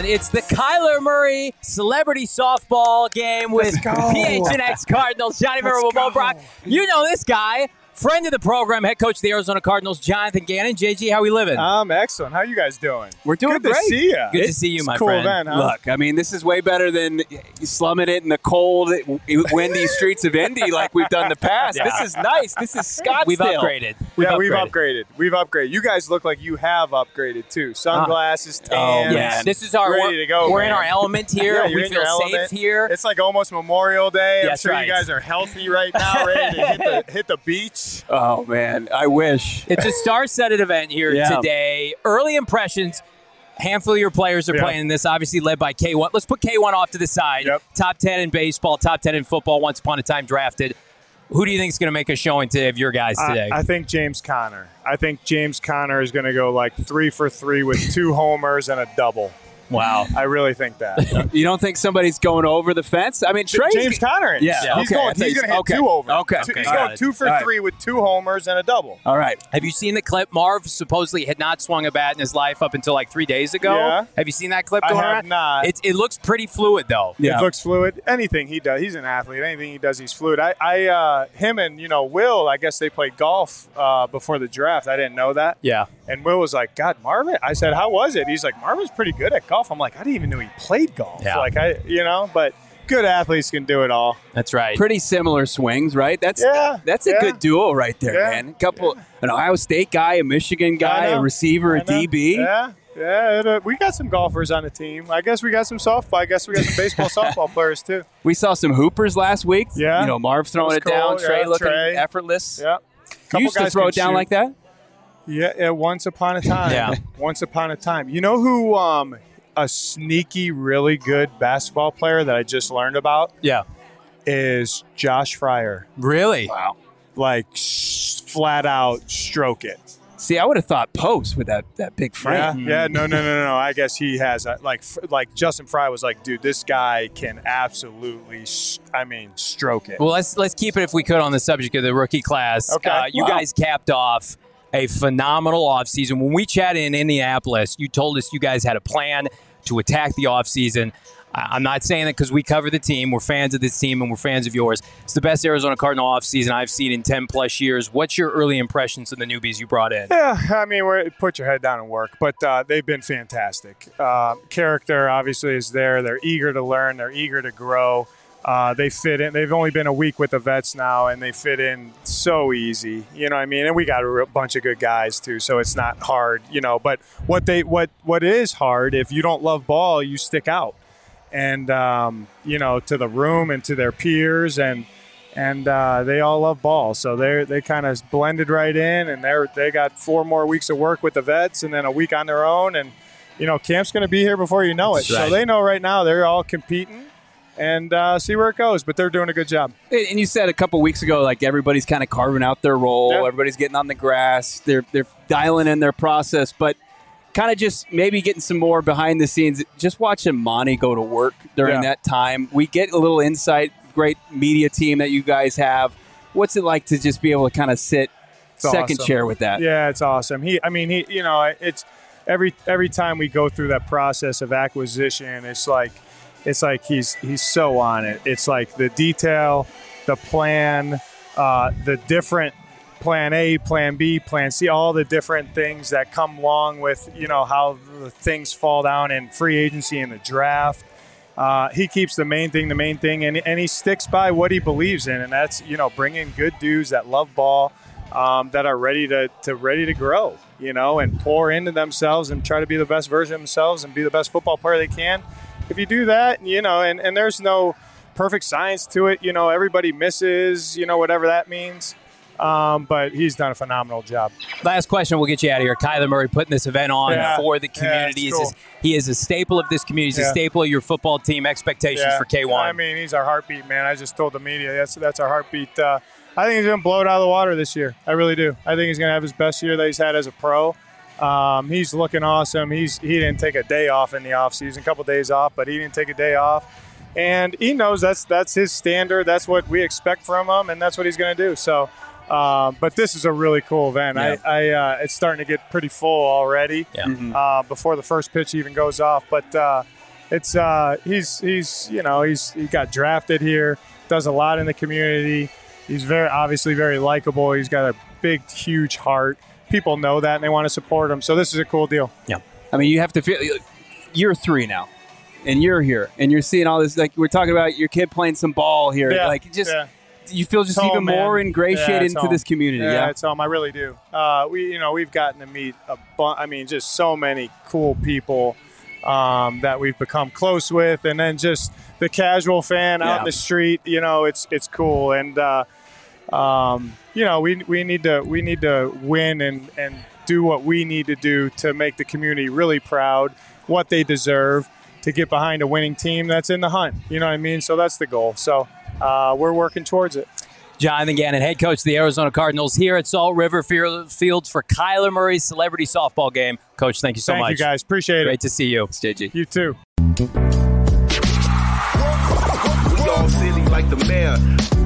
It's the Kyler Murray Celebrity Softball game with PHNX Cardinals. Johnny Verbo, Bo Brock. You know this guy. Friend of the program, head coach of the Arizona Cardinals, Jonathan Gannon. JG, how we living? I'm excellent. How you guys doing? We're doing Good great. to see you. Good to see you, my cool friend. Event, huh? Look, I mean, this is way better than slumming it in the cold, windy streets of Indy like we've done in the past. Yeah. This is nice. This is Scottsdale. We've upgraded. We've upgraded. You guys look like you have upgraded too. Sunglasses, tan. Yeah, this is our ready to go. We're man. in our element here. Yeah, we you're in feel your safe element. here. It's like almost Memorial Day. That's I'm sure right. you guys are healthy right now, ready to hit the beach. Oh, man. I wish. It's a star-studded event here today. Early impressions. Handful of your players are playing in this, obviously led by K1. Let's put K1 off to the side. Yep. Top 10 in baseball, top 10 in football, once upon a time drafted. Who do you think is going to make a showing today of your guys today? I think James Conner. I think James Conner is going to go like 3 for 3 with 2 homers and a double. Wow. I really think that. You don't think somebody's going over the fence? I mean, Trey's James Conner is. Yeah, He's okay. going to hit 2 over. Okay. He's Got going it. 2 for All right. 3 with 2 homers and a double. All right. Have you seen the clip? Marv supposedly had not swung a bat in his life up until like 3 days ago. Yeah. Have you seen that clip I going have around? not. It looks pretty fluid, though. Yeah. It looks fluid. Anything he does, he's an athlete. Anything he does, he's fluid. Him and Will, I guess they played golf before the draft. I didn't know that. Yeah. And Will was like, God, Marvin. I said, how was it? He's like, Marvin's pretty good at golf. I'm like, I didn't even know he played golf. Yeah. But good athletes can do it all. That's right. Pretty similar swings, right? That's a good duo right there, Yeah. man. An Ohio State guy, a Michigan guy, a receiver, a DB. Yeah. We got some golfers on the team. I guess we got some softball. I guess we got some baseball, softball players too. We saw some hoopers last week. Yeah. Marv throwing it That down, was cool. Trey Yeah, looking Trey. effortless. Yeah. You used to throw it down like that? Yeah, once upon a time. Yeah. Once upon a time. You know who a sneaky, really good basketball player that I just learned about Yeah. is Josh Fryer. Really? Wow. Like, flat out stroke it. See, I would have thought post with that big frame. Yeah. No. I guess he has like Justin Fry was like, dude, this guy can absolutely, stroke it. Well, let's keep it, if we could, on the subject of the rookie class. Okay. You guys capped off a phenomenal offseason. When we chatted in Indianapolis, you told us you guys had a plan to attack the offseason. I'm not saying that because we cover the team. We're fans of this team and we're fans of yours. It's the best Arizona Cardinal offseason I've seen in 10-plus years. What's your early impressions of the newbies you brought in? Yeah, put your head down and work, but they've been fantastic. Character obviously is there. They're eager to learn. They're eager to grow. They fit in. They've only been a week with the vets now, and they fit in so easy. You know what I mean? And we got a bunch of good guys too, so it's not hard. But what is hard, if you don't love ball, you stick out, and to the room and to their peers, and they all love ball, so they kind of blended right in, and they got 4 more weeks of work with the vets, and then a week on their own, and camp's going to be here before you know it. That's right. So they know right now they're all competing. And see where it goes, but they're doing a good job. And you said a couple weeks ago, like everybody's kind of carving out their role. Yeah. Everybody's getting on the grass. They're dialing in their process, but kind of just maybe getting some more behind the scenes. Just watching Monty go to work during that time. We get a little insight. Great media team that you guys have. What's it like to just be able to kind of sit second chair with that? Yeah, it's awesome. It's every time we go through that process of acquisition, it's like he's so on it. It's like the detail, the plan, the different plan A, plan B, plan C, all the different things that come along with, how the things fall down in free agency and the draft. He keeps the main thing, and he sticks by what he believes in, and that's, bringing good dudes that love ball, that are ready to grow, and pour into themselves and try to be the best version of themselves and be the best football player they can. If you do that, and there's no perfect science to it, everybody misses, whatever that means. But he's done a phenomenal job. Last question, we'll get you out of here. Kyler Murray putting this event on for the community. Yeah, cool. He is a staple of this community. He's a staple of your football team. Expectations for K1. He's our heartbeat, man. I just told the media that's our heartbeat. I think he's going to blow it out of the water this year. I really do. I think he's going to have his best year that he's had as a pro. He's looking awesome. He didn't take a day off in the offseason, a couple days off, but he didn't take a day off. And he knows that's his standard. That's what we expect from him, and that's what he's going to do. So, but this is a really cool event. Yeah. It's starting to get pretty full already before the first pitch even goes off. But it's he got drafted here, does a lot in the community. He's obviously very likable. He's got a big, huge heart. People know that and they want to support him. So this is a cool deal. Yeah. I mean, you have to feel year 3 now, and you're here, and you're seeing all this. Like we're talking about your kid playing some ball here. Yeah. Like just. Yeah. You feel just home, even more man. ingratiated into home. this community. Yeah, it's home. I really do. We've gotten to meet just so many cool people that we've become close with, and then just the casual fan out in the street. It's cool, and we need to win and do what we need to do to make the community really proud, what they deserve, to get behind a winning team that's in the hunt. You know what I mean? So that's the goal. So. We're working towards it. Jonathan Gannon, head coach of the Arizona Cardinals, here at Salt River Fields for Kyler Murray's celebrity softball game. Coach, thank you so much. Thank you, guys. Appreciate it. Great to see you. It's JG. You too. We all silly like the mayor.